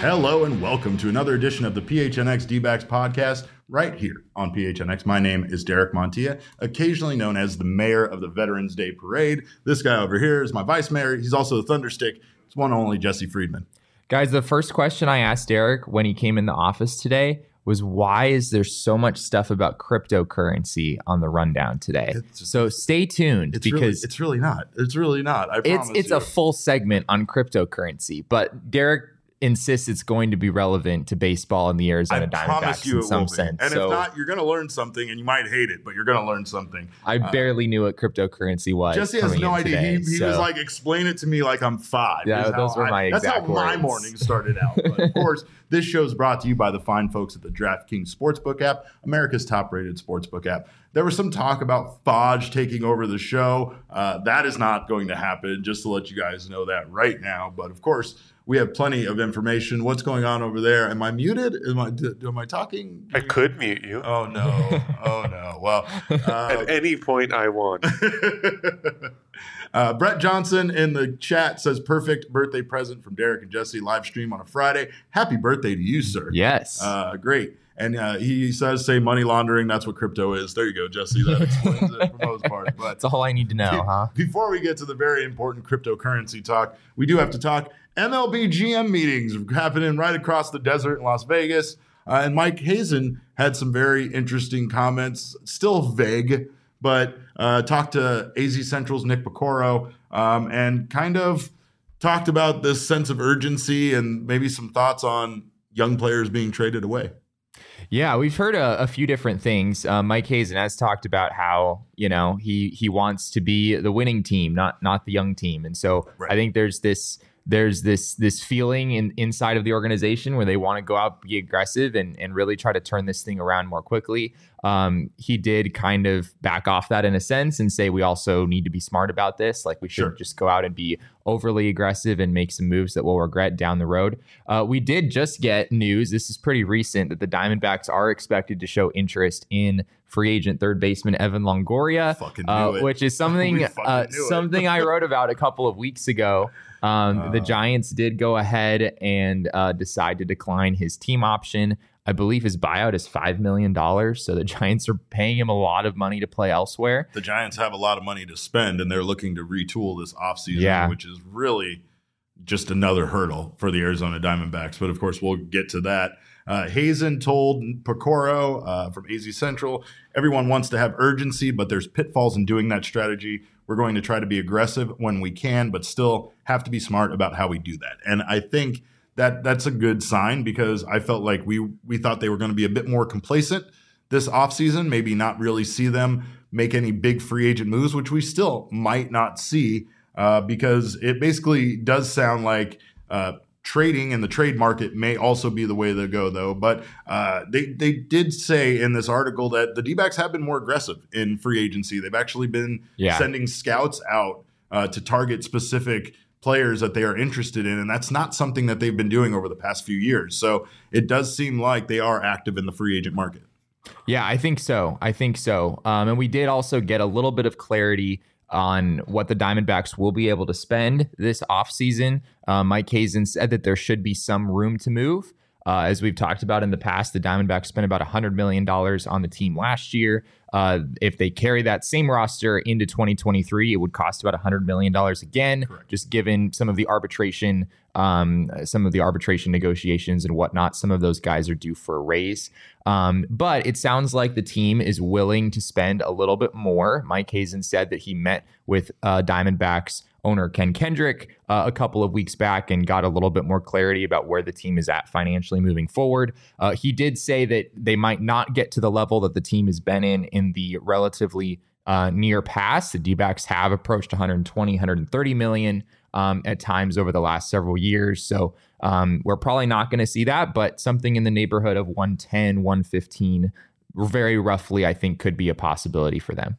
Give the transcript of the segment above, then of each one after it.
Hello and welcome to another edition of the PHNX D-backs podcast right here on PHNX. My name is Derek Montilla, occasionally known as the mayor of the Veterans Day Parade. This guy over here is my vice mayor. He's also the Thunderstick. It's one and only Jesse Friedman. Guys, the first question I asked Derek when he came in the office today was, why is there so much stuff about cryptocurrency on the rundown today? So stay tuned, because it's really not. It's really not. I promise it's a full segment on cryptocurrency, but Derek insists it's going to be relevant to baseball and the Arizona Diamondbacks in some sense. And if not, you're going to learn something, and you might hate it, but you're going to learn something. I barely knew what cryptocurrency was. Jesse has no idea. He was like, explain it to me like I'm 5. Yeah, those were my exact That's how my words. morning started out. But of course, this show is brought to you by the fine folks at the DraftKings Sportsbook app, America's top-rated sportsbook app. There was some talk about Fodge taking over the show. That is not going to happen, just to let you guys know that right now. But of course, we have plenty of information. What's going on over there? Am I muted? Am I talking? I could mute you. Oh, no. Oh, no. Well, at any point I want. Brett Johnson in the chat says, perfect birthday present from Derek and Jesse, live stream on a Friday. Happy birthday to you, sir. Yes. Great. And he says, say money laundering. That's what crypto is. There you go, Jesse. That explains it for the most part. But that's all I need to know, huh? Before we get to the very important cryptocurrency talk, we do have to talk MLB GM meetings happening right across the desert in Las Vegas. And Mike Hazen had some very interesting comments, still vague, but talked to AZ Central's Nick Piecoro and kind of talked about this sense of urgency and maybe some thoughts on young players being traded away. Yeah, we've heard a few different things. Mike Hazen has talked about how, he wants to be the winning team, not the young team. And so right. I think there's this feeling inside of the organization where they want to go out, be aggressive, and really try to turn this thing around more quickly. He did kind of back off that in a sense and say we also need to be smart about this. Like, we shouldn't just go out and be overly aggressive and make some moves that we'll regret down the road. We did just get news, this is pretty recent, that the Diamondbacks are expected to show interest in free agent third baseman Evan Longoria, which is something I wrote about a couple of weeks ago. The Giants did go ahead and decide to decline his team option. I believe his buyout is $5 million. So the Giants are paying him a lot of money to play elsewhere. The Giants have a lot of money to spend, and they're looking to retool this offseason, which is really just another hurdle for the Arizona Diamondbacks. But of course, we'll get to that. Hazen told Piecoro from AZ Central, everyone wants to have urgency, but there's pitfalls in doing that strategy. We're going to try to be aggressive when we can, but still have to be smart about how we do that. And I think that's a good sign, because I felt like we thought they were going to be a bit more complacent this offseason, maybe not really see them make any big free agent moves, which we still might not see, because it basically does sound like trading in the trade market may also be the way to go, though. But they did say in this article that the D-backs have been more aggressive in free agency. They've actually been sending scouts out to target specific players that they are interested in, and that's not something that they've been doing over the past few years. So it does seem like they are active in the free agent market. Yeah, I think so. And we did also get a little bit of clarity on what the Diamondbacks will be able to spend this offseason. Mike Hazen said that there should be some room to move. As we've talked about in the past, the Diamondbacks spent about $100 million on the team last year. If they carry that same roster into 2023, it would cost about $100 million again. Correct. Just given some of the arbitration negotiations and whatnot. Some of those guys are due for a raise. But it sounds like the team is willing to spend a little bit more. Mike Hazen said that he met with Diamondbacks owner Ken Kendrick a couple of weeks back and got a little bit more clarity about where the team is at financially moving forward. He did say that they might not get to the level that the team has been in the relatively near past. The D-backs have approached 120, 130 million at times over the last several years. So we're probably not going to see that, but something in the neighborhood of 110, 115, very roughly, I think could be a possibility for them.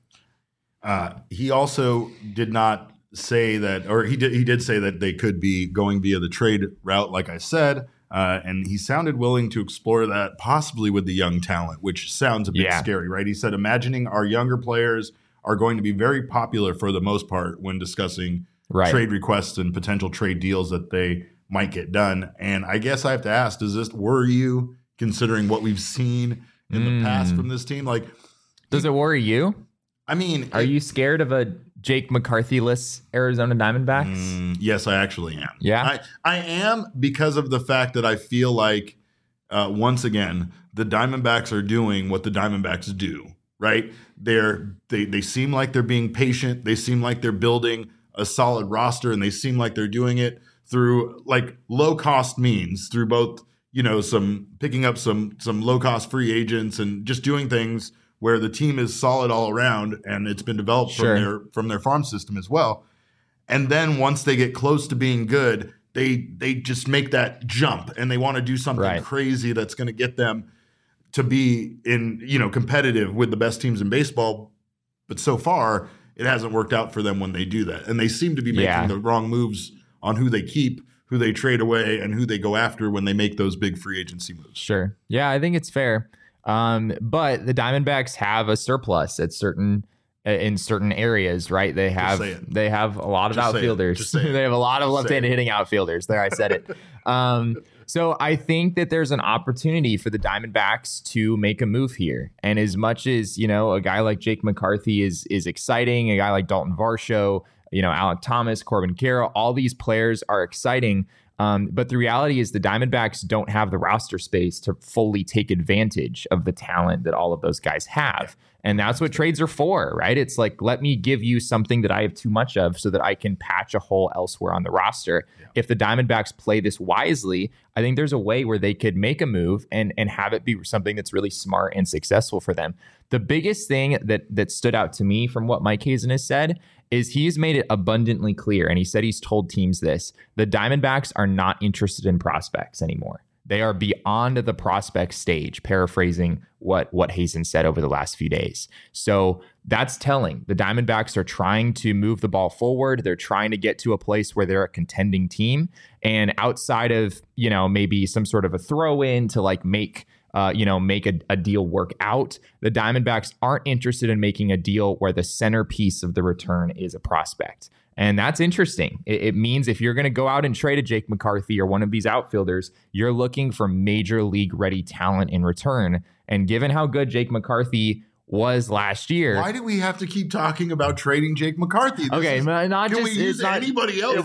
He also did not say that, or he did say that they could be going via the trade route, like I said, and he sounded willing to explore that possibly with the young talent, which sounds a bit scary, right? He said, imagining our younger players are going to be very popular for the most part when discussing trade requests and potential trade deals that they might get done. And I guess I have to ask, worry you, considering what we've seen in the past from this team? Like, does it worry you? I mean, are you scared of a Jake McCarthy-less Arizona Diamondbacks? Yes, I actually am. Yeah, I am, because of the fact that I feel like, once again, the Diamondbacks are doing what the Diamondbacks do, right? They seem like they're being patient. They seem like they're building a solid roster, and they seem like they're doing it through like low cost means, through both, some picking up some low cost free agents and just doing things where the team is solid all around, and it's been developed from their farm system as well. And then once they get close to being good, they just make that jump, and they want to do something crazy that's going to get them to be competitive with the best teams in baseball. But so far, it hasn't worked out for them when they do that. And they seem to be making the wrong moves on who they keep, who they trade away, and who they go after when they make those big free agency moves. Sure. Yeah, I think it's fair. But the Diamondbacks have a surplus in certain areas, right? They have a lot of outfielders. They have a lot of left-handed hitting outfielders. There, I said it. So I think that there's an opportunity for the Diamondbacks to make a move here. And as much as, a guy like Jake McCarthy is exciting, a guy like Dalton Varsho, Alek Thomas, Corbin Carroll, all these players are exciting. But the reality is the Diamondbacks don't have the roster space to fully take advantage of the talent that all of those guys have. And that's what trades are for, right? It's like, let me give you something that I have too much of so that I can patch a hole elsewhere on the roster. Yeah. If the Diamondbacks play this wisely, I think there's a way where they could make a move and have it be something that's really smart and successful for them. The biggest thing that stood out to me from what Mike Hazen has said is he's made it abundantly clear, and he said he's told teams this: the Diamondbacks are not interested in prospects anymore. They are beyond the prospect stage, paraphrasing what Hazen said over the last few days. So that's telling. The Diamondbacks are trying to move the ball forward. They're trying to get to a place where they're a contending team. And outside of, maybe some sort of a throw in to like make a deal work out, the Diamondbacks aren't interested in making a deal where the centerpiece of the return is a prospect. And that's interesting. It means if you're going to go out and trade a Jake McCarthy or one of these outfielders, you're looking for major league ready talent in return. And given how good Jake McCarthy was last year. Why do we have to keep talking about trading Jake McCarthy? Can we use anybody else?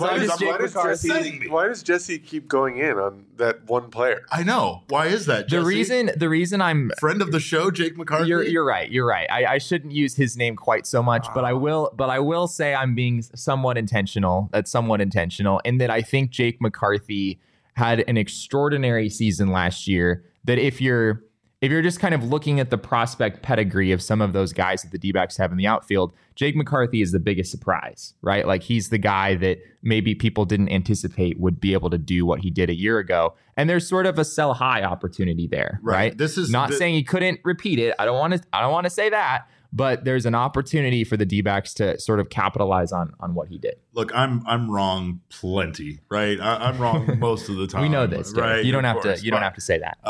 Why does Jesse keep going in on that one player? I know. Why is that, Jesse? The reason I'm friend of the show, Jake McCarthy. You're right. I shouldn't use his name quite so much, but I will say I'm being somewhat intentional. That's somewhat intentional in that I think Jake McCarthy had an extraordinary season last year. That if you're just kind of looking at the prospect pedigree of some of those guys that the D-backs have in the outfield, Jake McCarthy is the biggest surprise, right? Like he's the guy that maybe people didn't anticipate would be able to do what he did a year ago. And there's sort of a sell high opportunity there, right? This is not saying he couldn't repeat it. I don't want to say that, but there's an opportunity for the D-backs to sort of capitalize on what he did. Look, I'm wrong plenty, right? I'm wrong most of the time. We know this, right? You don't have to say that.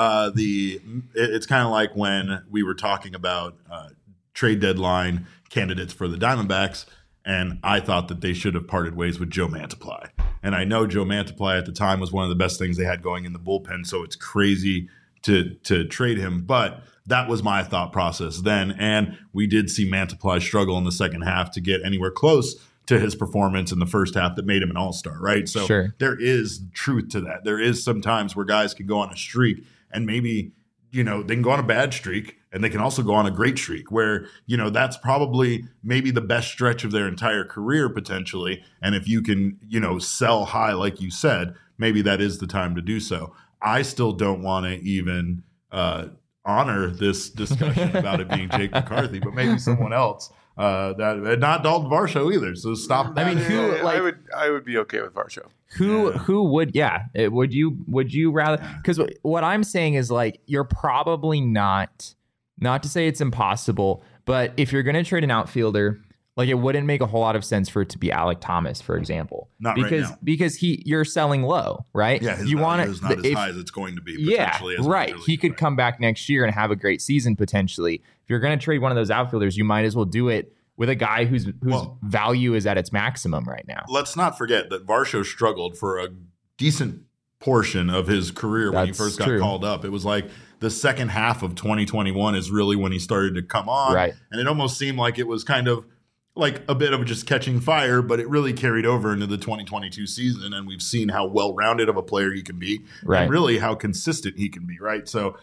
It's kind of like when we were talking about trade deadline candidates for the Diamondbacks, and I thought that they should have parted ways with Joe Mantiply. And I know Joe Mantiply at the time was one of the best things they had going in the bullpen, so it's crazy to trade him, but that was my thought process then. And we did see Mantiply struggle in the second half to get anywhere close to his performance in the first half that made him an all-star, right? So There is truth to that. There is some times where guys can go on a streak and maybe, they can go on a bad streak and they can also go on a great streak where, that's probably maybe the best stretch of their entire career potentially. And if you can, sell high, like you said, maybe that is the time to do so. I still don't want to even honor this discussion about it being Jake McCarthy, but maybe someone else. That not Dalton Varsho either. So stop that. I mean, I would be okay with Varsho. Who would? Yeah, would you rather? Because what I'm saying is like you're probably not to say it's impossible, but if you're going to trade an outfielder. Like it wouldn't make a whole lot of sense for it to be Alek Thomas, for example, because you're selling low, right? Yeah, his value is not as high as it's going to be. Potentially as right. He could come back next year and have a great season potentially. If you're going to trade one of those outfielders, you might as well do it with a guy whose value is at its maximum right now. Let's not forget that Varsho struggled for a decent portion of his career when he first got called up. It was like the second half of 2021 is really when he started to come on. Right. And it almost seemed like it was kind of like a bit of just catching fire, but it really carried over into the 2022 season. And we've seen how well-rounded of a player he can be, and really how consistent he can be. Right. So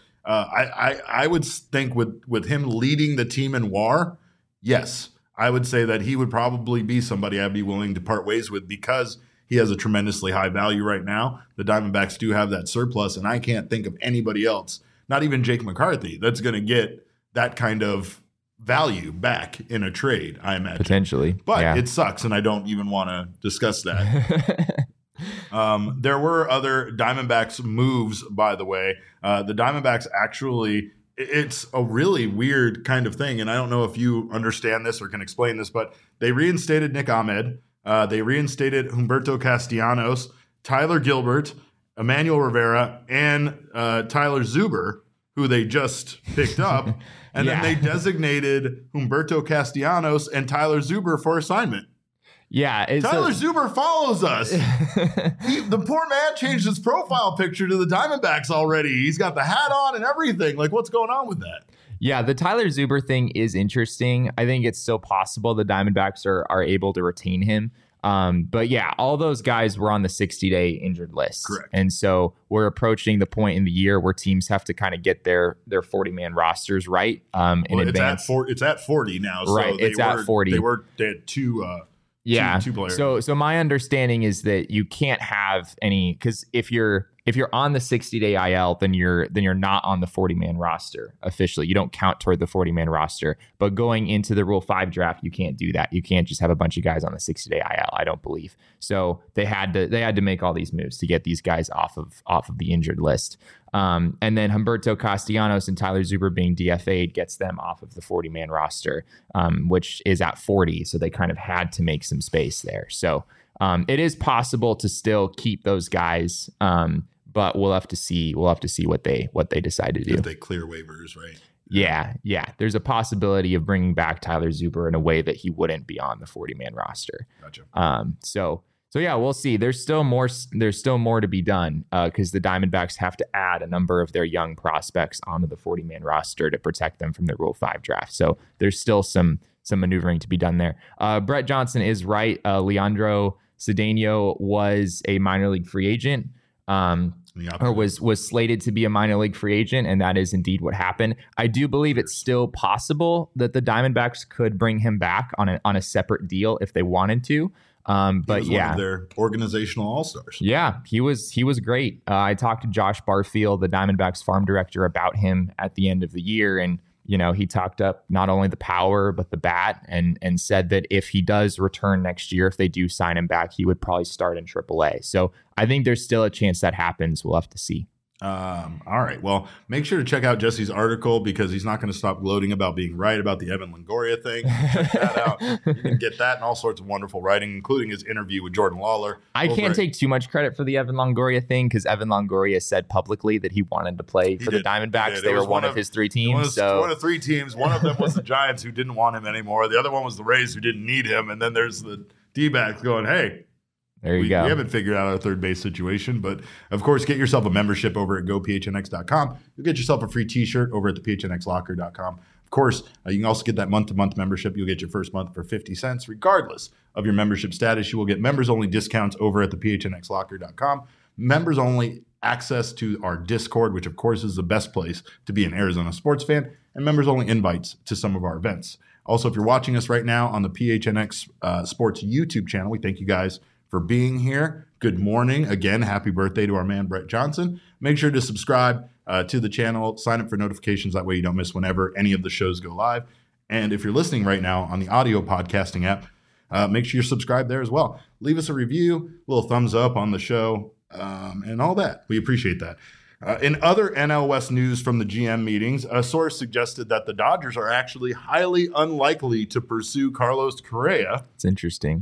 I would think with him leading the team in WAR, yes, I would say that he would probably be somebody I'd be willing to part ways with because he has a tremendously high value right now. The Diamondbacks do have that surplus, and I can't think of anybody else, not even Jake McCarthy, that's going to get that kind of value back in a trade, I imagine. Potentially. But it sucks, and I don't even want to discuss that. There were other Diamondbacks moves, by the way. The Diamondbacks actually, it's a really weird kind of thing, and I don't know if you understand this or can explain this, but they reinstated Nick Ahmed. They reinstated Humberto Castellanos, Tyler Gilbert, Emmanuel Rivera, and Tyler Zuber, who they just picked up. And then they designated Humberto Castellanos and Tyler Zuber for assignment. Yeah. Tyler Zuber follows us. The poor man changed his profile picture to the Diamondbacks already. He's got the hat on and everything. Like, what's going on with that? Yeah, the Tyler Zuber thing is interesting. I think it's still possible the Diamondbacks are able to retain him. But yeah, all those guys were on the 60-day injured list. Correct. And so we're approaching the point in the year where teams have to kind of get their 40-man rosters right in advance. It's at 40 now. So right, it's at 40. They had two players. So my understanding is that you can't have any, because if you're on the 60-day IL, then you're not on the 40-man roster officially. You don't count toward the 40-man roster. But going into the Rule 5 draft, you can't do that. You can't just have a bunch of guys on the 60-day IL, I don't believe. So they had to make all these moves to get these guys off of the injured list. And then Humberto Castellanos and Tyler Zuber being DFA'd gets them off of the 40-man roster, which is at 40. So they kind of had to make some space there. So it is possible to still keep those guys. But we'll have to see what they decide to do. If they clear waivers, right? Yeah. There's a possibility of bringing back Tyler Zuber in a way that he wouldn't be on the 40-man roster. Gotcha. So yeah, we'll see. There's still more to be done because the Diamondbacks have to add a number of their young prospects onto the 40-man roster to protect them from the Rule 5 draft. So there's still some maneuvering to be done there. Brett Johnson is right. Leandro Cedeno was a minor league free agent. Or was slated to be a minor league free agent, and that is indeed what happened. I do believe it's still possible that the Diamondbacks could bring him back on a separate deal if they wanted to. But one of their organizational all-stars. Yeah, he was great. I talked to Josh Barfield, the Diamondbacks farm director, about him at the end of the year, and he talked up not only the power, but the bat and said that if he does return next year, if they do sign him back, he would probably start in AAA. So I think there's still a chance that happens. We'll have to see. All right. Well, make sure to check out Jesse's article because he's not going to stop gloating about being right about the Evan Longoria thing. Check that out. You can get that and all sorts of wonderful writing, including his interview with Jordan Lawler. I can't take too much credit for the Evan Longoria thing because Evan Longoria said publicly that he wanted to play for the Diamondbacks. They were one of his three teams. One of three teams. One of them was the Giants who didn't want him anymore. The other one was the Rays who didn't need him. And then there's the D-backs going, hey, there you go. We haven't figured out our third base situation, but of course, get yourself a membership over at gophnx.com. You'll get yourself a free t-shirt over at the phnxlocker.com. Of course, you can also get that month-to-month membership. You'll get your first month for 50 cents. Regardless of your membership status, you will get members-only discounts over at the phnxlocker.com. Members-only access to our Discord, which of course is the best place to be an Arizona sports fan, and members-only invites to some of our events. Also, if you're watching us right now on the PHNX Sports YouTube channel, we thank you guys for being here. Good morning. Again, happy birthday to our man, Brett Johnson. Make sure to subscribe to the channel. Sign up for notifications. That way you don't miss whenever any of the shows go live. And if you're listening right now on the audio podcasting app, make sure you're subscribed there as well. Leave us a review, a little thumbs up on the show, and all that. We appreciate that. In other NL West news from the GM meetings, a source suggested that the Dodgers are actually highly unlikely to pursue Carlos Correa. It's interesting.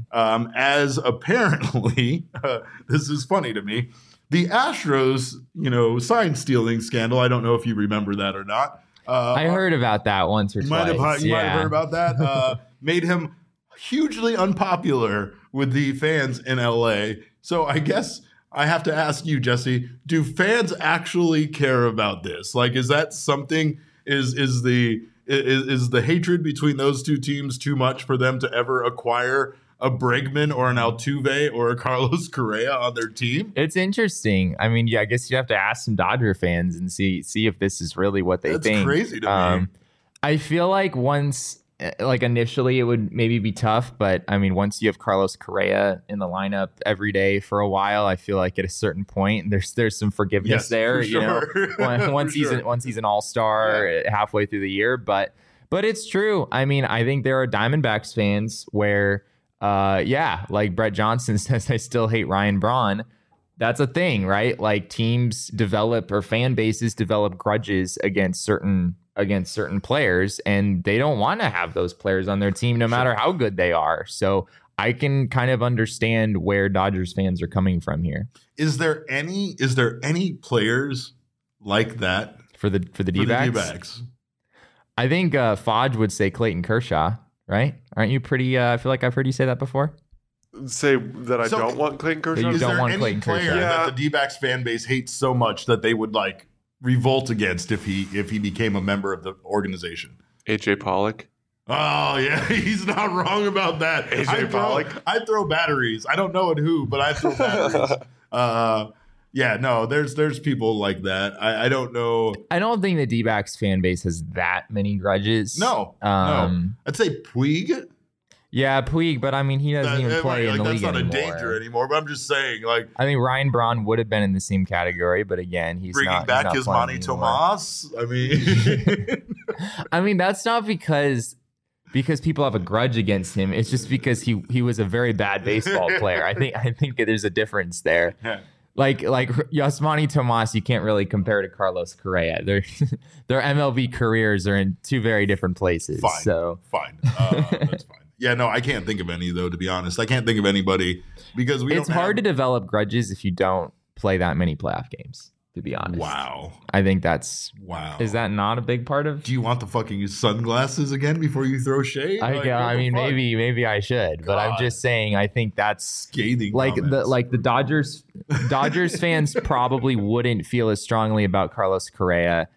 As apparently, this is funny to me, the Astros, sign stealing scandal. I don't know if you remember that or not. I heard about that once or twice. You might have heard about that. Made him hugely unpopular with the fans in LA. So I guess I have to ask you, Jesse, do fans actually care about this? Like, is that something, is the hatred between those two teams too much for them to ever acquire a Bregman or an Altuve or a Carlos Correa on their team? It's interesting. I mean, yeah, I guess you have to ask some Dodger fans and see if this is really what they think. That's crazy to me. I feel like initially it would maybe be tough, but I mean, once you have Carlos Correa in the lineup every day for a while, I feel like at a certain point there's some forgiveness there. Sure. You know, once he's an all-star halfway through the year, but it's true. I mean, I think there are Diamondbacks fans where, like Brett Johnson says, I still hate Ryan Braun. That's a thing, right? Like teams develop or fan bases develop grudges against certain players, and they don't want to have those players on their team no matter how good they are. So I can kind of understand where Dodgers fans are coming from here. Is there any players like that for the D-backs? I think Fodge would say Clayton Kershaw, right? Aren't you pretty I feel like I've heard you say that before. Say that I don't want Clayton Kershaw? You don't want any Clayton player Kershaw that the D-backs fan base hates so much that they would like revolt against if he became a member of the organization? AJ Pollock. Oh yeah, he's not wrong about that. AJ Pollock. I throw batteries. I don't know at who, but I throw batteries. Yeah, no, there's people like that. I don't know. I don't think the D-backs fan base has that many grudges. No. I'd say Puig. Yeah, Puig, but I mean, he doesn't even play in the league anymore. That's not a danger anymore, but I'm just saying, like... I think Ryan Braun would have been in the same category, but again, he's bringing not... back Bringing back Yasmani Tomas? I mean... I mean, that's not because people have a grudge against him. It's just because he was a very bad baseball player. I think there's a difference there. Yeah. Like Yasmani Tomas, you can't really compare to Carlos Correa. Their MLB careers are in two very different places. Fine. That's fine. Yeah, no, I can't think of any, though, to be honest. I can't think of anybody because it's hard to develop grudges if you don't play that many playoff games, to be honest. Wow. I think that's... Wow. Is that not a big part of... Do you want the fucking sunglasses again before you throw shade? I mean, maybe I should, but I'm just saying I think that's... Scathing the Dodgers fans probably wouldn't feel as strongly about Carlos Correa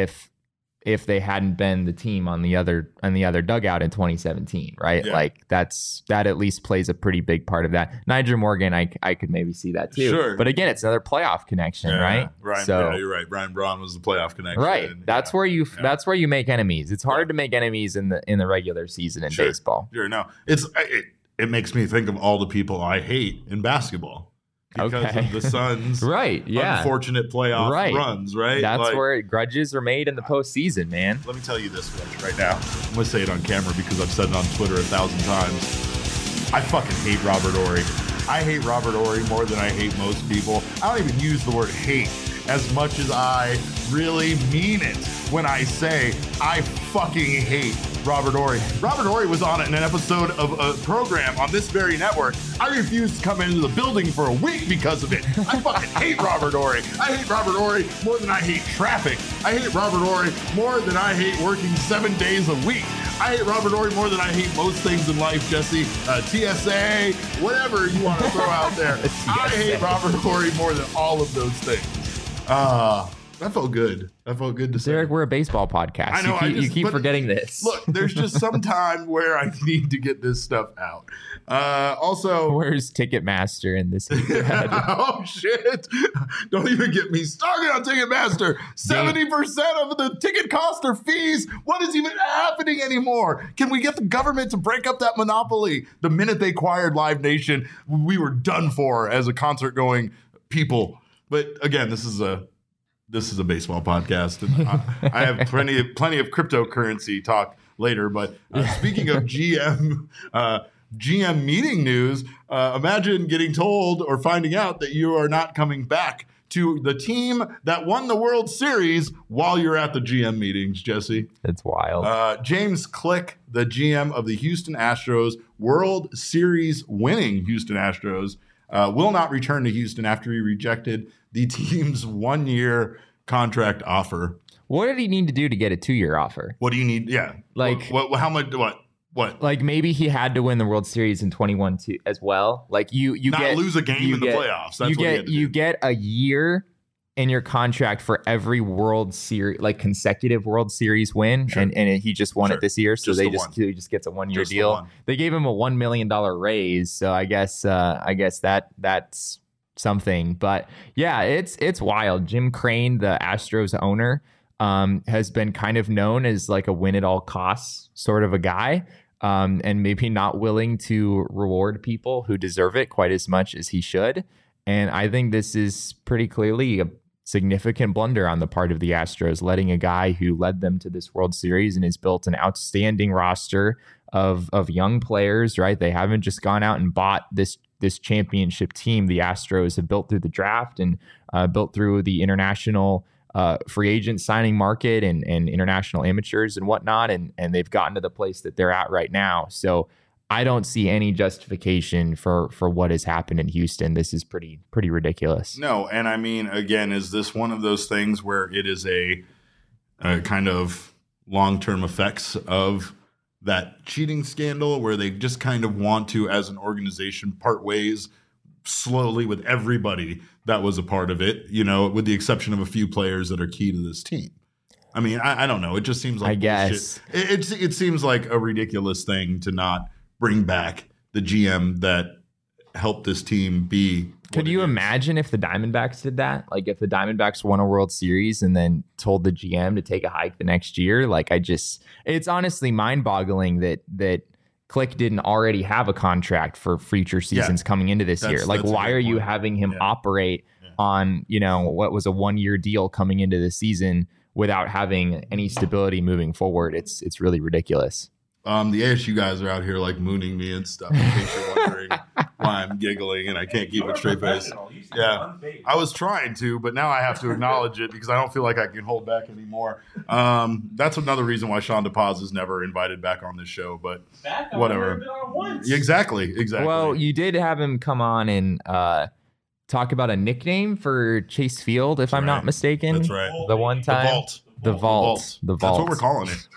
if they hadn't been the team on the other dugout in 2017, right? Yeah. Like that at least plays a pretty big part of that. Nyjer Morgan, I could maybe see that too. Sure. But again, it's another playoff connection, right? You're right. Ryan Braun was the playoff connection. Right. That's where you make enemies. It's hard to make enemies in the regular season in baseball. Sure. No. It makes me think of all the people I hate in basketball. Because of the Suns' unfortunate playoff runs, right? That's where grudges are made in the postseason, man. Let me tell you this much right now. I'm going to say it on camera because I've said it on Twitter 1,000 times. I fucking hate Robert Horry. I hate Robert Horry more than I hate most people. I don't even use the word hate as much as I really mean it when I say I fucking hate Robert Horry. Robert Horry was on an episode of a program on this very network. I refused to come into the building for a week because of it. I fucking hate Robert Horry. I hate Robert Horry more than I hate traffic. I hate Robert Horry more than I hate working 7 days a week. I hate Robert Horry more than I hate most things in life, Jesse. TSA, whatever you want to throw out there. I hate Robert Horry more than all of those things. That felt good. That felt good to say. Derek, we're a baseball podcast. I know. You keep forgetting this. Look, there's just some time where I need to get this stuff out. Also, where's Ticketmaster in this? Oh shit! Don't even get me started on Ticketmaster. 70% of the ticket costs are fees. What is even happening anymore? Can we get the government to break up that monopoly? The minute they acquired Live Nation, we were done for as a concert-going people. But again, this is a baseball podcast, and I have plenty of cryptocurrency talk later. But speaking of GM meeting news, imagine getting told or finding out that you are not coming back to the team that won the World Series while you're at the GM meetings, Jesse. It's wild. James Click, the GM of the Houston Astros, World Series winning Houston Astros, will not return to Houston after he rejected the team's 1-year contract offer. What did he need to do to get a 2-year offer? What do you need? Yeah. Like, how much? What? What? Like maybe he had to win the World Series in 21 too, as well. Like you not lose a game in the playoffs. That's you get a year in your contract for every World Series, like consecutive World Series win, and he just won it this year, so he just gets a 1 year deal. They gave him a $1 million raise, so I guess that's something. But yeah, it's wild. Jim Crane, the Astros owner, has been kind of known as like a win at all costs sort of a guy, and maybe not willing to reward people who deserve it quite as much as he should. And I think this is pretty clearly a significant blunder on the part of the Astros, letting a guy who led them to this World Series and has built an outstanding roster of young players, right? They haven't just gone out and bought this championship team. The Astros have built through the draft and built through the international free agent signing market and international amateurs and whatnot. And they've gotten to the place that they're at right now. So I don't see any justification for what has happened in Houston. This is pretty ridiculous. No, and I mean, again, is this one of those things where it is a kind of long-term effects of that cheating scandal where they just kind of want to, as an organization, part ways slowly with everybody that was a part of it, with the exception of a few players that are key to this team? I mean, I don't know. It just seems like, I guess it seems like a ridiculous thing to not bring back the GM that helped this team be. Could you imagine if the Diamondbacks did that? Like if the Diamondbacks won a World Series and then told the GM to take a hike the next year? Like it's honestly mind-boggling that Click didn't already have a contract for future seasons coming into this year. Like why are you having him operate on, what was a 1 year deal coming into the season without having any stability moving forward? It's really ridiculous. The ASU guys are out here like mooning me and stuff. In case you're wondering why I'm giggling and I can't keep a straight face. Yeah, I was trying to, but now I have to acknowledge it because I don't feel like I can hold back anymore. That's another reason why Sean DePaz is never invited back on this show. But whatever. Exactly. Well, you did have him come on and talk about a nickname for Chase Field, if I'm not mistaken. That's right. The one time. The Vault. That's what we're calling it.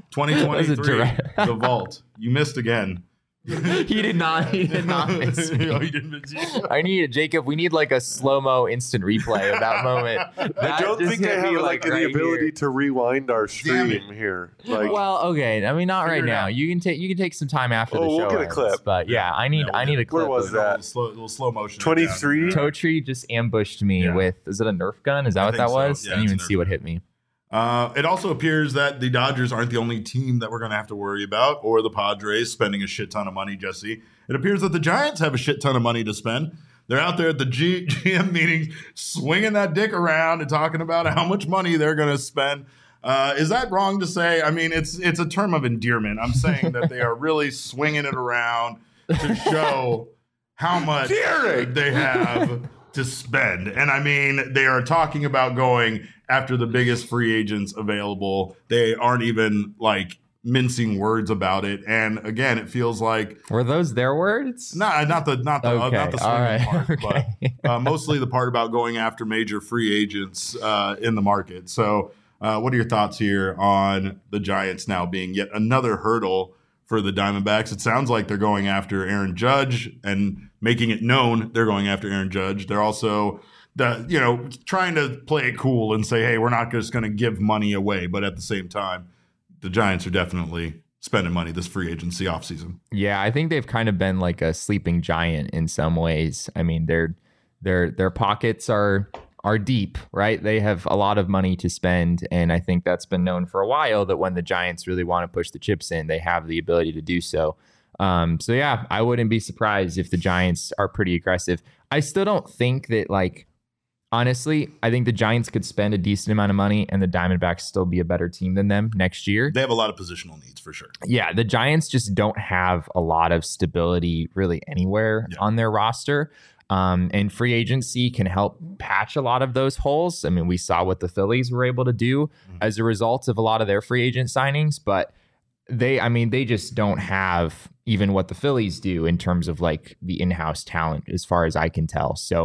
2023, The Vault. You missed again. He did not miss me. No, he didn't miss you. Jacob, we need like a slow-mo instant replay of that moment. I don't think I have the ability to rewind our stream here. Well, okay. I mean, not right now. You can take some time after the show. We'll get a clip. But yeah, I need a clip. Where was that? Little slow motion. 23. Totri just ambushed me with, is it a Nerf gun? Is that what that was? Yeah, I didn't even see what hit me. It also appears that the Dodgers aren't the only team that we're going to have to worry about, or the Padres spending a shit ton of money, Jesse. It appears that the Giants have a shit ton of money to spend. They're out there at the GM meeting swinging that dick around and talking about how much money they're going to spend. Is that wrong to say? I mean, it's a term of endearment. I'm saying that they are really swinging it around to show how much they have to spend. And I mean, they are talking about going after the biggest free agents available. They aren't even like mincing words about it. And again, it feels like, were those their words? Not the swinging part, okay. But mostly the part about going after major free agents in the market. So what are your thoughts here on the Giants now being yet another hurdle for the Diamondbacks? It sounds like they're going after Aaron Judge and making it known they're going after Aaron Judge. They're also trying to play it cool and say, hey, we're not just going to give money away. But at the same time, the Giants are definitely spending money this free agency offseason. Yeah, I think they've kind of been like a sleeping giant in some ways. I mean, their pockets are deep, right? They have a lot of money to spend. And I think that's been known for a while that when the Giants really want to push the chips in, they have the ability to do so. So yeah, I wouldn't be surprised if the Giants are pretty aggressive. I still don't think that honestly, I think the Giants could spend a decent amount of money and the Diamondbacks still be a better team than them next year. They have a lot of positional needs for sure. Yeah, the Giants just don't have a lot of stability really anywhere on their roster. And free agency can help patch a lot of those holes. I mean, we saw what the Phillies were able to do as a result of a lot of their free agent signings, but they just don't have even what the Phillies do in terms of like the in-house talent as far as I can tell. So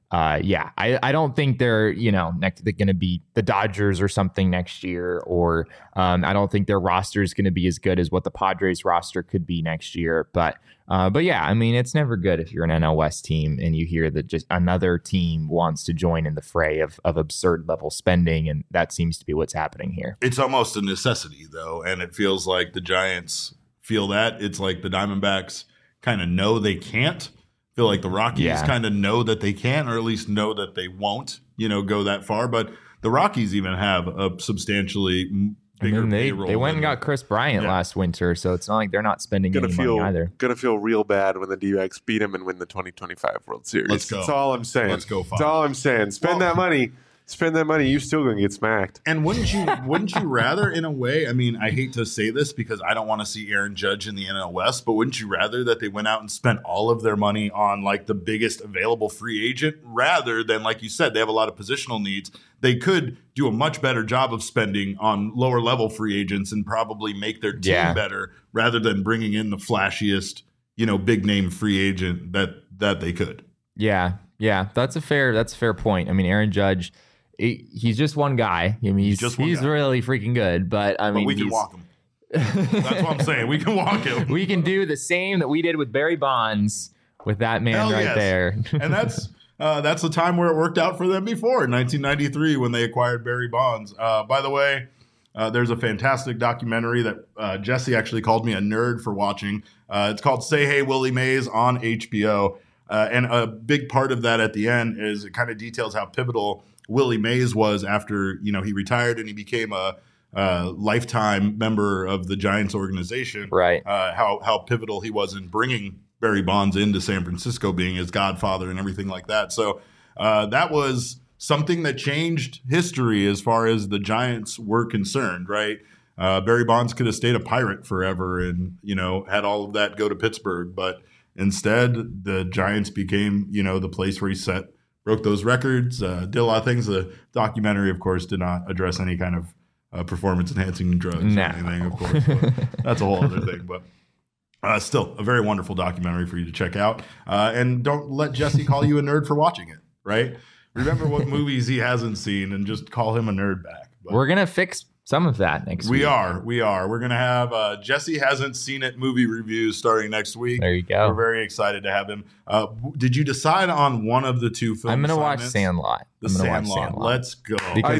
I don't think they're, they're going to be the Dodgers or something next year, or I don't think their roster is going to be as good as what the Padres roster could be next year. But yeah, I mean, it's never good if you're an NL West team and you hear that just another team wants to join in the fray of absurd level spending. And that seems to be what's happening here. It's almost a necessity, though. And it feels like the Giants feel that. It's like the Diamondbacks kind of know they can't. Feel like the Rockies kind of know that they can, or at least know that they won't, go that far. But the Rockies even have a substantially bigger payroll. They went and got Chris Bryant last winter, so it's not like they're not spending any money either. Gonna feel real bad when the D-backs beat them and win the 2025 World Series. Let's go. That's all I'm saying. Let's go. That's all I'm saying. Spend that money. Spend that money, you're still going to get smacked. And wouldn't you rather, in a way, I mean, I hate to say this because I don't want to see Aaron Judge in the NL West, but wouldn't you rather that they went out and spent all of their money on like the biggest available free agent rather than, like you said, they have a lot of positional needs. They could do a much better job of spending on lower level free agents and probably make their team better rather than bringing in the flashiest, big name free agent that they could. Yeah. That's a fair point. I mean, Aaron Judge, he's just one guy. I mean, he's really freaking good, but we can walk him. That's what I'm saying. We can walk him. We can do the same that we did with Barry Bonds with that man there. And that's the time where it worked out for them before in 1993 when they acquired Barry Bonds. By the way, there's a fantastic documentary that Jesse actually called me a nerd for watching. It's called Say Hey Willie Mays on HBO. And a big part of that at the end is it kind of details how pivotal Willie Mays was after, he retired and he became a lifetime member of the Giants organization. Right. How pivotal he was in bringing Barry Bonds into San Francisco, being his godfather and everything like that. So that was something that changed history as far as the Giants were concerned, right? Barry Bonds could have stayed a Pirate forever and, had all of that go to Pittsburgh. But instead, the Giants became, the place where he broke those records, did a lot of things. The documentary, of course, did not address any kind of performance-enhancing drugs or anything, of course. But that's a whole other thing. But still, a very wonderful documentary for you to check out. And don't let Jesse call you a nerd for watching it, right? Remember what movies he hasn't seen and just call him a nerd back. But we're going to fix some of that next week. We are. We're going to have Jesse Hasn't Seen It movie reviews starting next week. There you go. We're very excited to have him. Did you decide on one of the two films? I'm going to watch Sandlot. Let's go.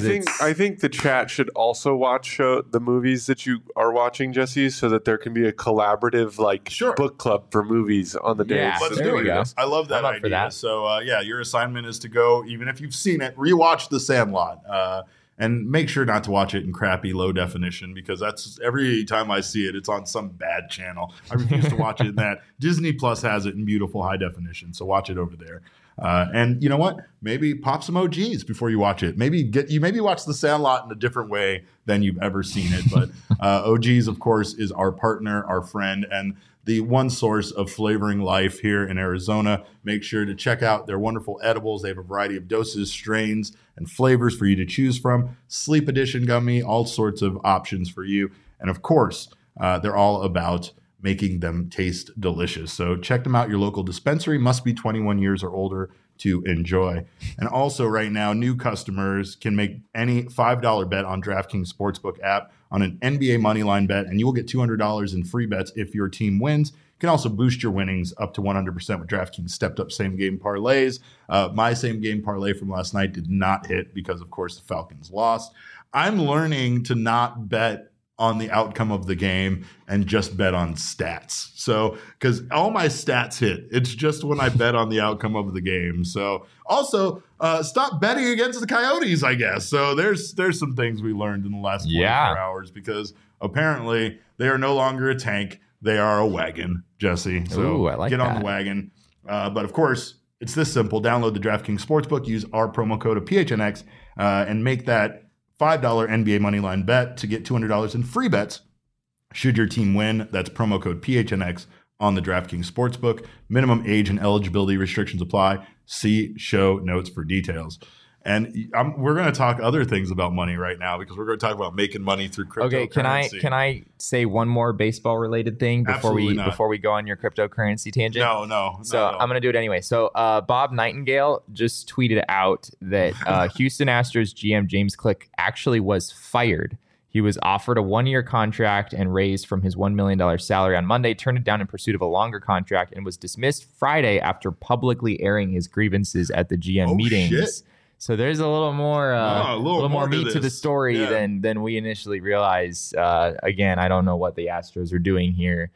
I think the chat should also watch the movies that you are watching, Jesse, so that there can be a collaborative book club for movies on the days. Let's do it. I love that idea. That. So your assignment is to go, even if you've seen it, rewatch The Sandlot. And make sure not to watch it in crappy low definition because that's every time I see it, it's on some bad channel. I refuse to watch it in that. Disney Plus has it in beautiful high definition, so watch it over there. And you know what? Maybe pop some OGs before you watch it. Maybe watch The Sandlot in a different way than you've ever seen it. But OGs, of course, is our partner, our friend, and the one source of flavoring life here in Arizona. Make sure to check out their wonderful edibles. They have a variety of doses, strains, and flavors for you to choose from. Sleep Edition gummy, all sorts of options for you. And of course, they're all about making them taste delicious. So check them out. Your local dispensary must be 21 years or older to enjoy. And also right now, new customers can make any $5 bet on DraftKings Sportsbook app on an NBA moneyline bet, and you will get $200 in free bets if your team wins. You can also boost your winnings up to 100% with DraftKings stepped-up same-game parlays. My same-game parlay from last night did not hit because, of course, the Falcons lost. I'm learning to not bet on the outcome of the game and just bet on stats. So, because all my stats hit, it's just when I bet on the outcome of the game. So, also, stop betting against the Coyotes, I guess. So, there's some things we learned in the last 24 hours because apparently they are no longer a tank. They are a wagon, Jesse. So, I like get on the wagon. But, of course, it's this simple. Download the DraftKings Sportsbook, use our promo code of PHNX, and make that $5 NBA moneyline bet to get $200 in free bets should your team win. That's promo code PHNX on the DraftKings Sportsbook. Minimum age and eligibility restrictions apply. See show notes for details. And we're going to talk other things about money right now because we're going to talk about making money through cryptocurrency. Okay, can I say one more baseball related thing before we go on your cryptocurrency tangent? No. So I'm going to do it anyway. So Bob Nightingale just tweeted out that Houston Astros GM James Click actually was fired. He was offered a 1-year contract and raised from his $1 million salary on Monday, turned it down in pursuit of a longer contract, and was dismissed Friday after publicly airing his grievances at the GM meetings. Shit. So there's a little more, meat to the story than we initially realized. Again, I don't know what the Astros are doing here.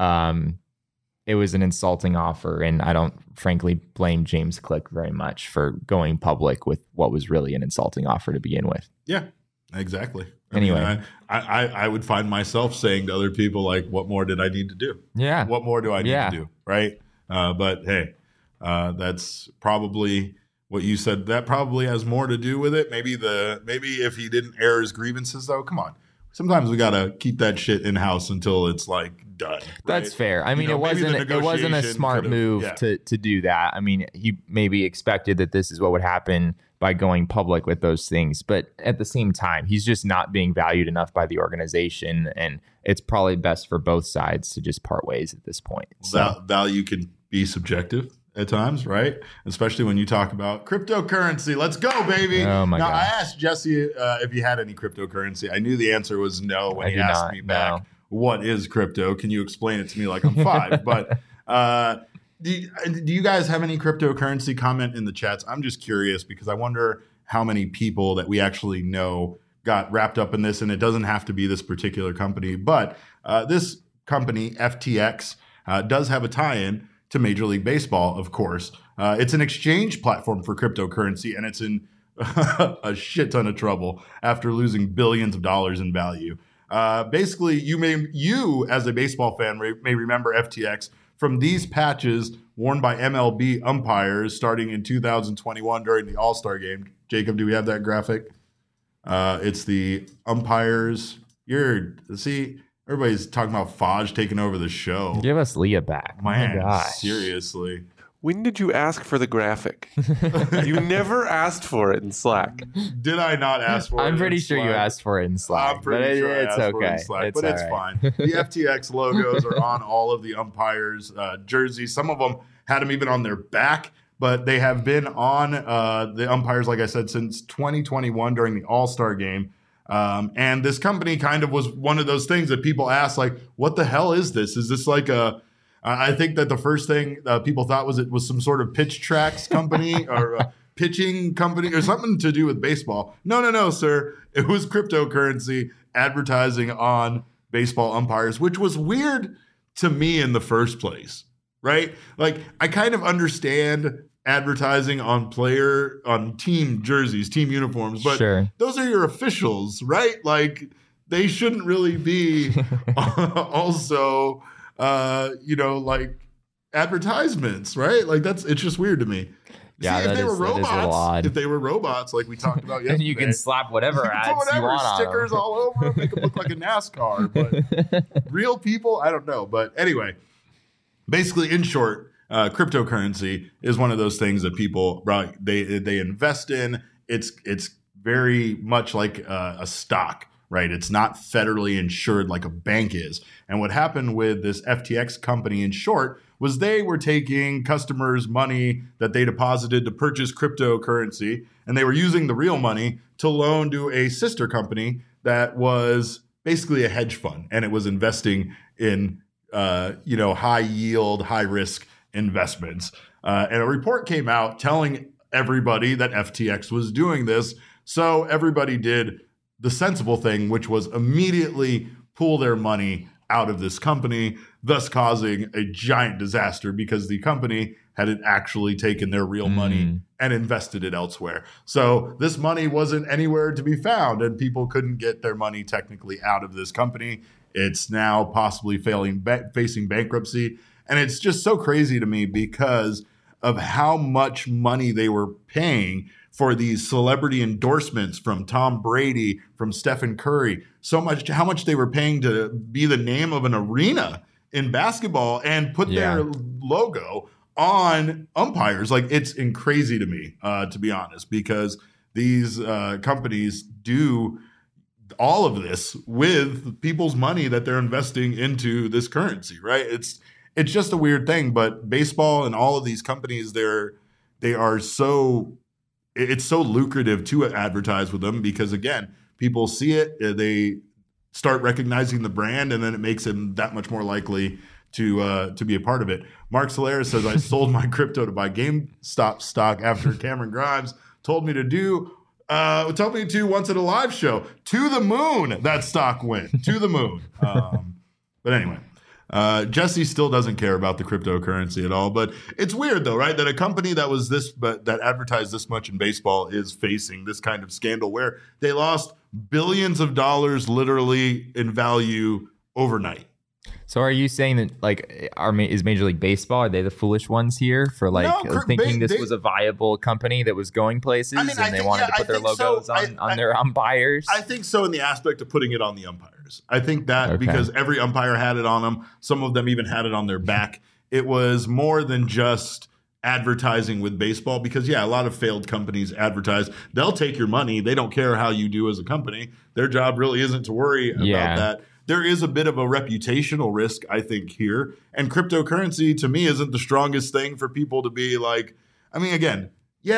It was an insulting offer, and I don't frankly blame James Click very much for going public with what was really an insulting offer to begin with. Yeah, exactly. Anyway, I would find myself saying to other people, like, what more did I need to do? Yeah. What more do I need to do? Right. But hey, that's probably what you said. That probably has more to do with it. Maybe if he didn't air his grievances, though, come on. Sometimes we got to keep that shit in house until it's like done. Right? That's fair. I mean, it wasn't a smart move to do that. I mean, he maybe expected that this is what would happen by going public with those things. But at the same time, he's just not being valued enough by the organization. And it's probably best for both sides to just part ways at this point. So value can be subjective at times, right? Especially when you talk about cryptocurrency. Let's go, baby. Oh my God. I asked Jesse if he had any cryptocurrency. I knew the answer was no when he asked me back, what is crypto? Can you explain it to me like I'm 5? But do you guys have any cryptocurrency? Comment in the chats. I'm just curious because I wonder how many people that we actually know got wrapped up in this. And it doesn't have to be this particular company, but this company, FTX, does have a tie-in to Major League Baseball, of course. It's an exchange platform for cryptocurrency, and it's in a shit ton of trouble after losing billions of dollars in value. Basically, you as a baseball fan may remember FTX from these patches worn by MLB umpires starting in 2021 during the All-Star game. Jacob, do we have that graphic? It's the umpires. Everybody's talking about Faj taking over the show. Give us Leah back. Man, oh my gosh. Seriously. When did you ask for the graphic? You never asked for it in Slack. Did I not ask for it? I'm pretty sure you asked for it in Slack. I'm pretty sure it's okay. For it in Slack, but it's fine. The FTX logos are on all of the umpires' jerseys. Some of them had them even on their back, but they have been on the umpires, like I said, since 2021 during the All-Star game. And this company kind of was one of those things that people asked, like, what the hell is this? Is this like I think that the first thing people thought was it was some sort of pitch tracks company or a pitching company or something to do with baseball. No, sir. It was cryptocurrency advertising on baseball umpires, which was weird to me in the first place, right? Like, I kind of understand advertising on team jerseys, team uniforms, but those are your officials, right? Like, they shouldn't really be also like advertisements, right? Like, it's just weird to me. Yeah, if they were robots, like we talked about yesterday, and you can slap whatever ads you want on stickers all over them, make them look like a NASCAR. But real people, I don't know. But anyway, basically, in short, cryptocurrency is one of those things that people they invest in. It's very much like a stock, right? It's not federally insured like a bank is. And what happened with this FTX company, in short, was they were taking customers' money that they deposited to purchase cryptocurrency, and they were using the real money to loan to a sister company that was basically a hedge fund, and it was investing in high yield, high risk investments. And a report came out telling everybody that FTX was doing this. So everybody did the sensible thing, which was immediately pull their money out of this company, thus causing a giant disaster because the company hadn't actually taken their real money and invested it elsewhere. So this money wasn't anywhere to be found, and people couldn't get their money technically out of this company. It's now possibly facing bankruptcy. And it's just so crazy to me because of how much money they were paying for these celebrity endorsements from Tom Brady, from Stephen Curry, how much they were paying to be the name of an arena in basketball and put their logo on umpires. Like, it's crazy to me, to be honest, because these companies do all of this with people's money that they're investing into this currency, right? It's just a weird thing, but baseball and all of these companies, it's so lucrative to advertise with them because, again, people see it, they start recognizing the brand, and then it makes them that much more likely to be a part of it. Mark Solaris says, I sold my crypto to buy GameStop stock after Cameron Grimes told me to once at a live show. To the moon, that stock went. To the moon. But anyway. Jesse still doesn't care about the cryptocurrency at all, but it's weird though, right? That a company that advertised this much in baseball is facing this kind of scandal where they lost billions of dollars literally in value overnight. So are you saying that is Major League Baseball, are they the foolish ones here for thinking this was a viable company that was going places and they wanted to put their logos on their umpires? I think so, in the aspect of putting it on the umpires. I think that because every umpire had it on them, some of them even had it on their back. It was more than just advertising with baseball because, a lot of failed companies advertise. They'll take your money. They don't care how you do as a company. Their job really isn't to worry about that. There is a bit of a reputational risk, I think, here. And cryptocurrency, to me, isn't the strongest thing for people to be like, again, you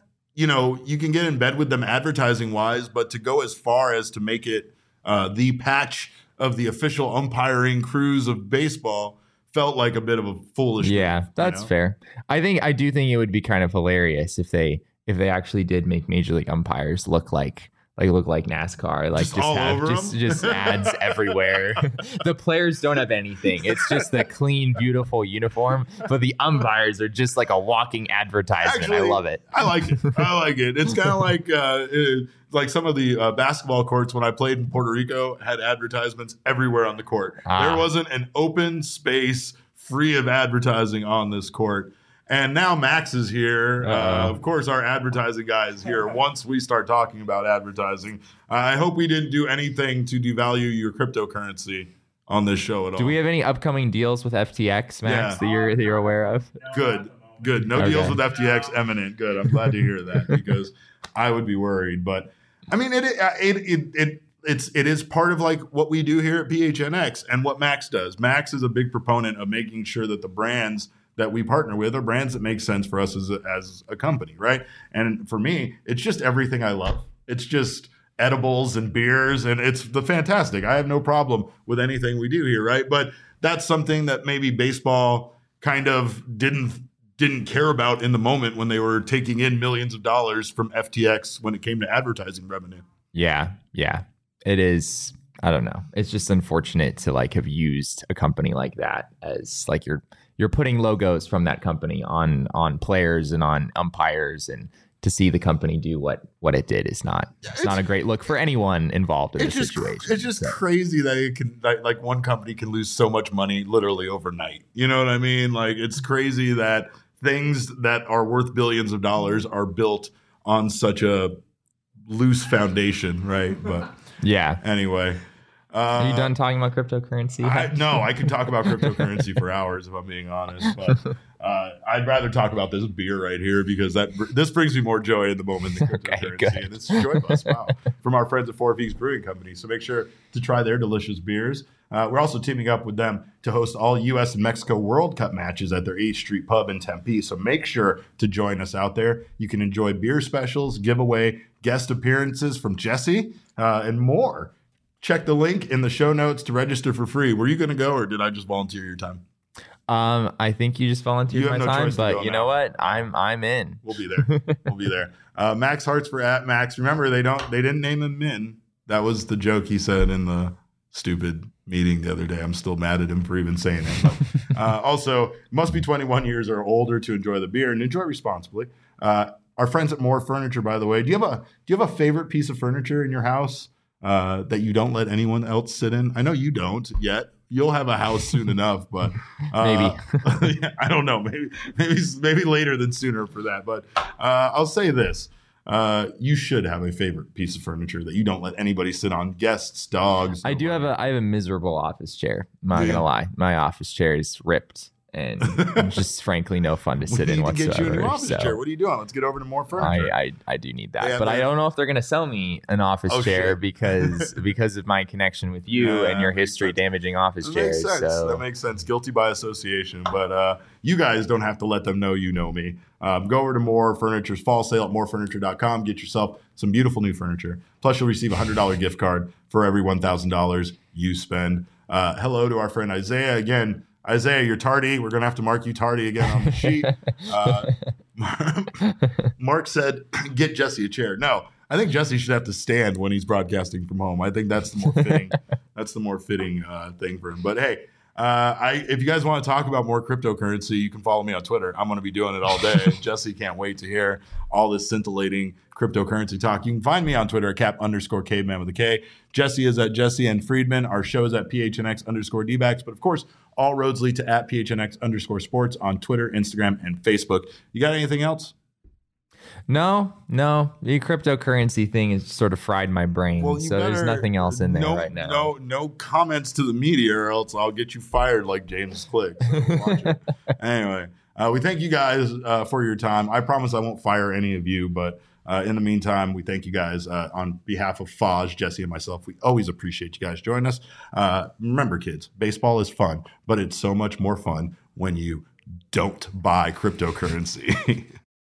can get in bed with them advertising-wise, but to go as far as to make it the patch of the official umpiring crews of baseball felt like a bit of a foolish thing, that's fair. I do think it would be kind of hilarious if they actually did make Major League umpires look like NASCAR, just ads everywhere. The players don't have anything. It's just the clean, beautiful uniform, but the umpires are just like a walking advertisement. Actually, I love it. I like it. It's kind of like some of the basketball courts when I played in Puerto Rico had advertisements everywhere on the court. There wasn't an open space free of advertising on this court. And now Max is here. Of course, our advertising guy is here. Once we start talking about advertising, I hope we didn't do anything to devalue your cryptocurrency on this show at all. Do we have any upcoming deals with FTX, Max, that you're aware of? Good. No deals with FTX imminent. Good. I'm glad to hear that because I would be worried. But it is part of like what we do here at PHNX and what Max does. Max is a big proponent of making sure that the brands that we partner with are brands that make sense for us as a company, right? And for me, it's just everything I love. It's just edibles and beers, and it's the fantastic. I have no problem with anything we do here, right? But that's something that maybe baseball kind of didn't care about in the moment when they were taking in millions of dollars from FTX when it came to advertising revenue. Yeah. It is. I don't know. It's just unfortunate to have used a company like that as you're putting logos from that company on players and on umpires, and to see the company do what it did is not a great look for anyone involved in the situation. It's just crazy that it can one company can lose so much money literally overnight. You know what I mean? It's crazy that things that are worth billions of dollars are built on such a loose foundation, right? But anyway. Are you done talking about cryptocurrency? No, I could talk about cryptocurrency for hours if I'm being honest. But I'd rather talk about this beer right here because this brings me more joy in the moment than cryptocurrency. Okay, and it's Joy Bus, from our friends at Four Peaks Brewing Company. So make sure to try their delicious beers. We're also teaming up with them to host all U.S. and Mexico World Cup matches at their 8th Street Pub in Tempe. So make sure to join us out there. You can enjoy beer specials, giveaway, guest appearances from Jesse, and more. Check the link in the show notes to register for free. Were you going to go, or did I just volunteer your time? I think you just volunteered my time, but you know what? I'm in. We'll be there. Max Hartsfer at Max. Remember, they didn't name him Min. That was the joke he said in the stupid meeting the other day. I'm still mad at him for even saying it. But, also, must be 21 years or older to enjoy the beer, and enjoy responsibly. Our friends at More Furniture, by the way, do you have a favorite piece of furniture in your house that you don't let anyone else sit in? I know you don't yet. You'll have a house soon enough, but maybe. I don't know. Maybe later than sooner for that. But I'll say this: you should have a favorite piece of furniture that you don't let anybody sit on. Guests, dogs. I have a miserable office chair. I'm not gonna lie. My office chair is ripped. and just frankly no fun to sit in whatsoever. Get you a new office chair. What are you doing? Let's get over to more furniture. I do need that, but I don't know if they're going to sell me an office chair because of my connection with you and your history damaging office chairs. That makes sense. Guilty by association, but you guys don't have to let them know you know me. Go over to More Furniture's fall sale at morefurniture.com. Get yourself some beautiful new furniture. Plus, you'll receive a $100 gift card for every $1,000 you spend. Hello to our friend Isaiah again. Isaiah, you're tardy. We're going to have to mark you tardy again on the sheet. Mark said, get Jesse a chair. No, I think Jesse should have to stand when he's broadcasting from home. I think that's the more fitting. That's the more fitting thing for him. But hey, if you guys want to talk about more cryptocurrency, you can follow me on Twitter. I'm going to be doing it all day. Jesse can't wait to hear all this scintillating cryptocurrency talk. You can find me on Twitter at cap_caveman with a K. Jesse is at Jesse and Friedman. Our show is at PHNX_DBacks. But of course, all roads lead to at PHNX_sports on Twitter, Instagram, and Facebook. You got anything else? No. The cryptocurrency thing has sort of fried my brain. Well, so there's nothing else in there right now. No comments to the media, or else I'll get you fired like James Click. So anyway, we thank you guys for your time. I promise I won't fire any of you, but in the meantime, we thank you guys on behalf of Faj, Jesse, and myself. We always appreciate you guys joining us. Remember, kids, baseball is fun, but it's so much more fun when you don't buy cryptocurrency.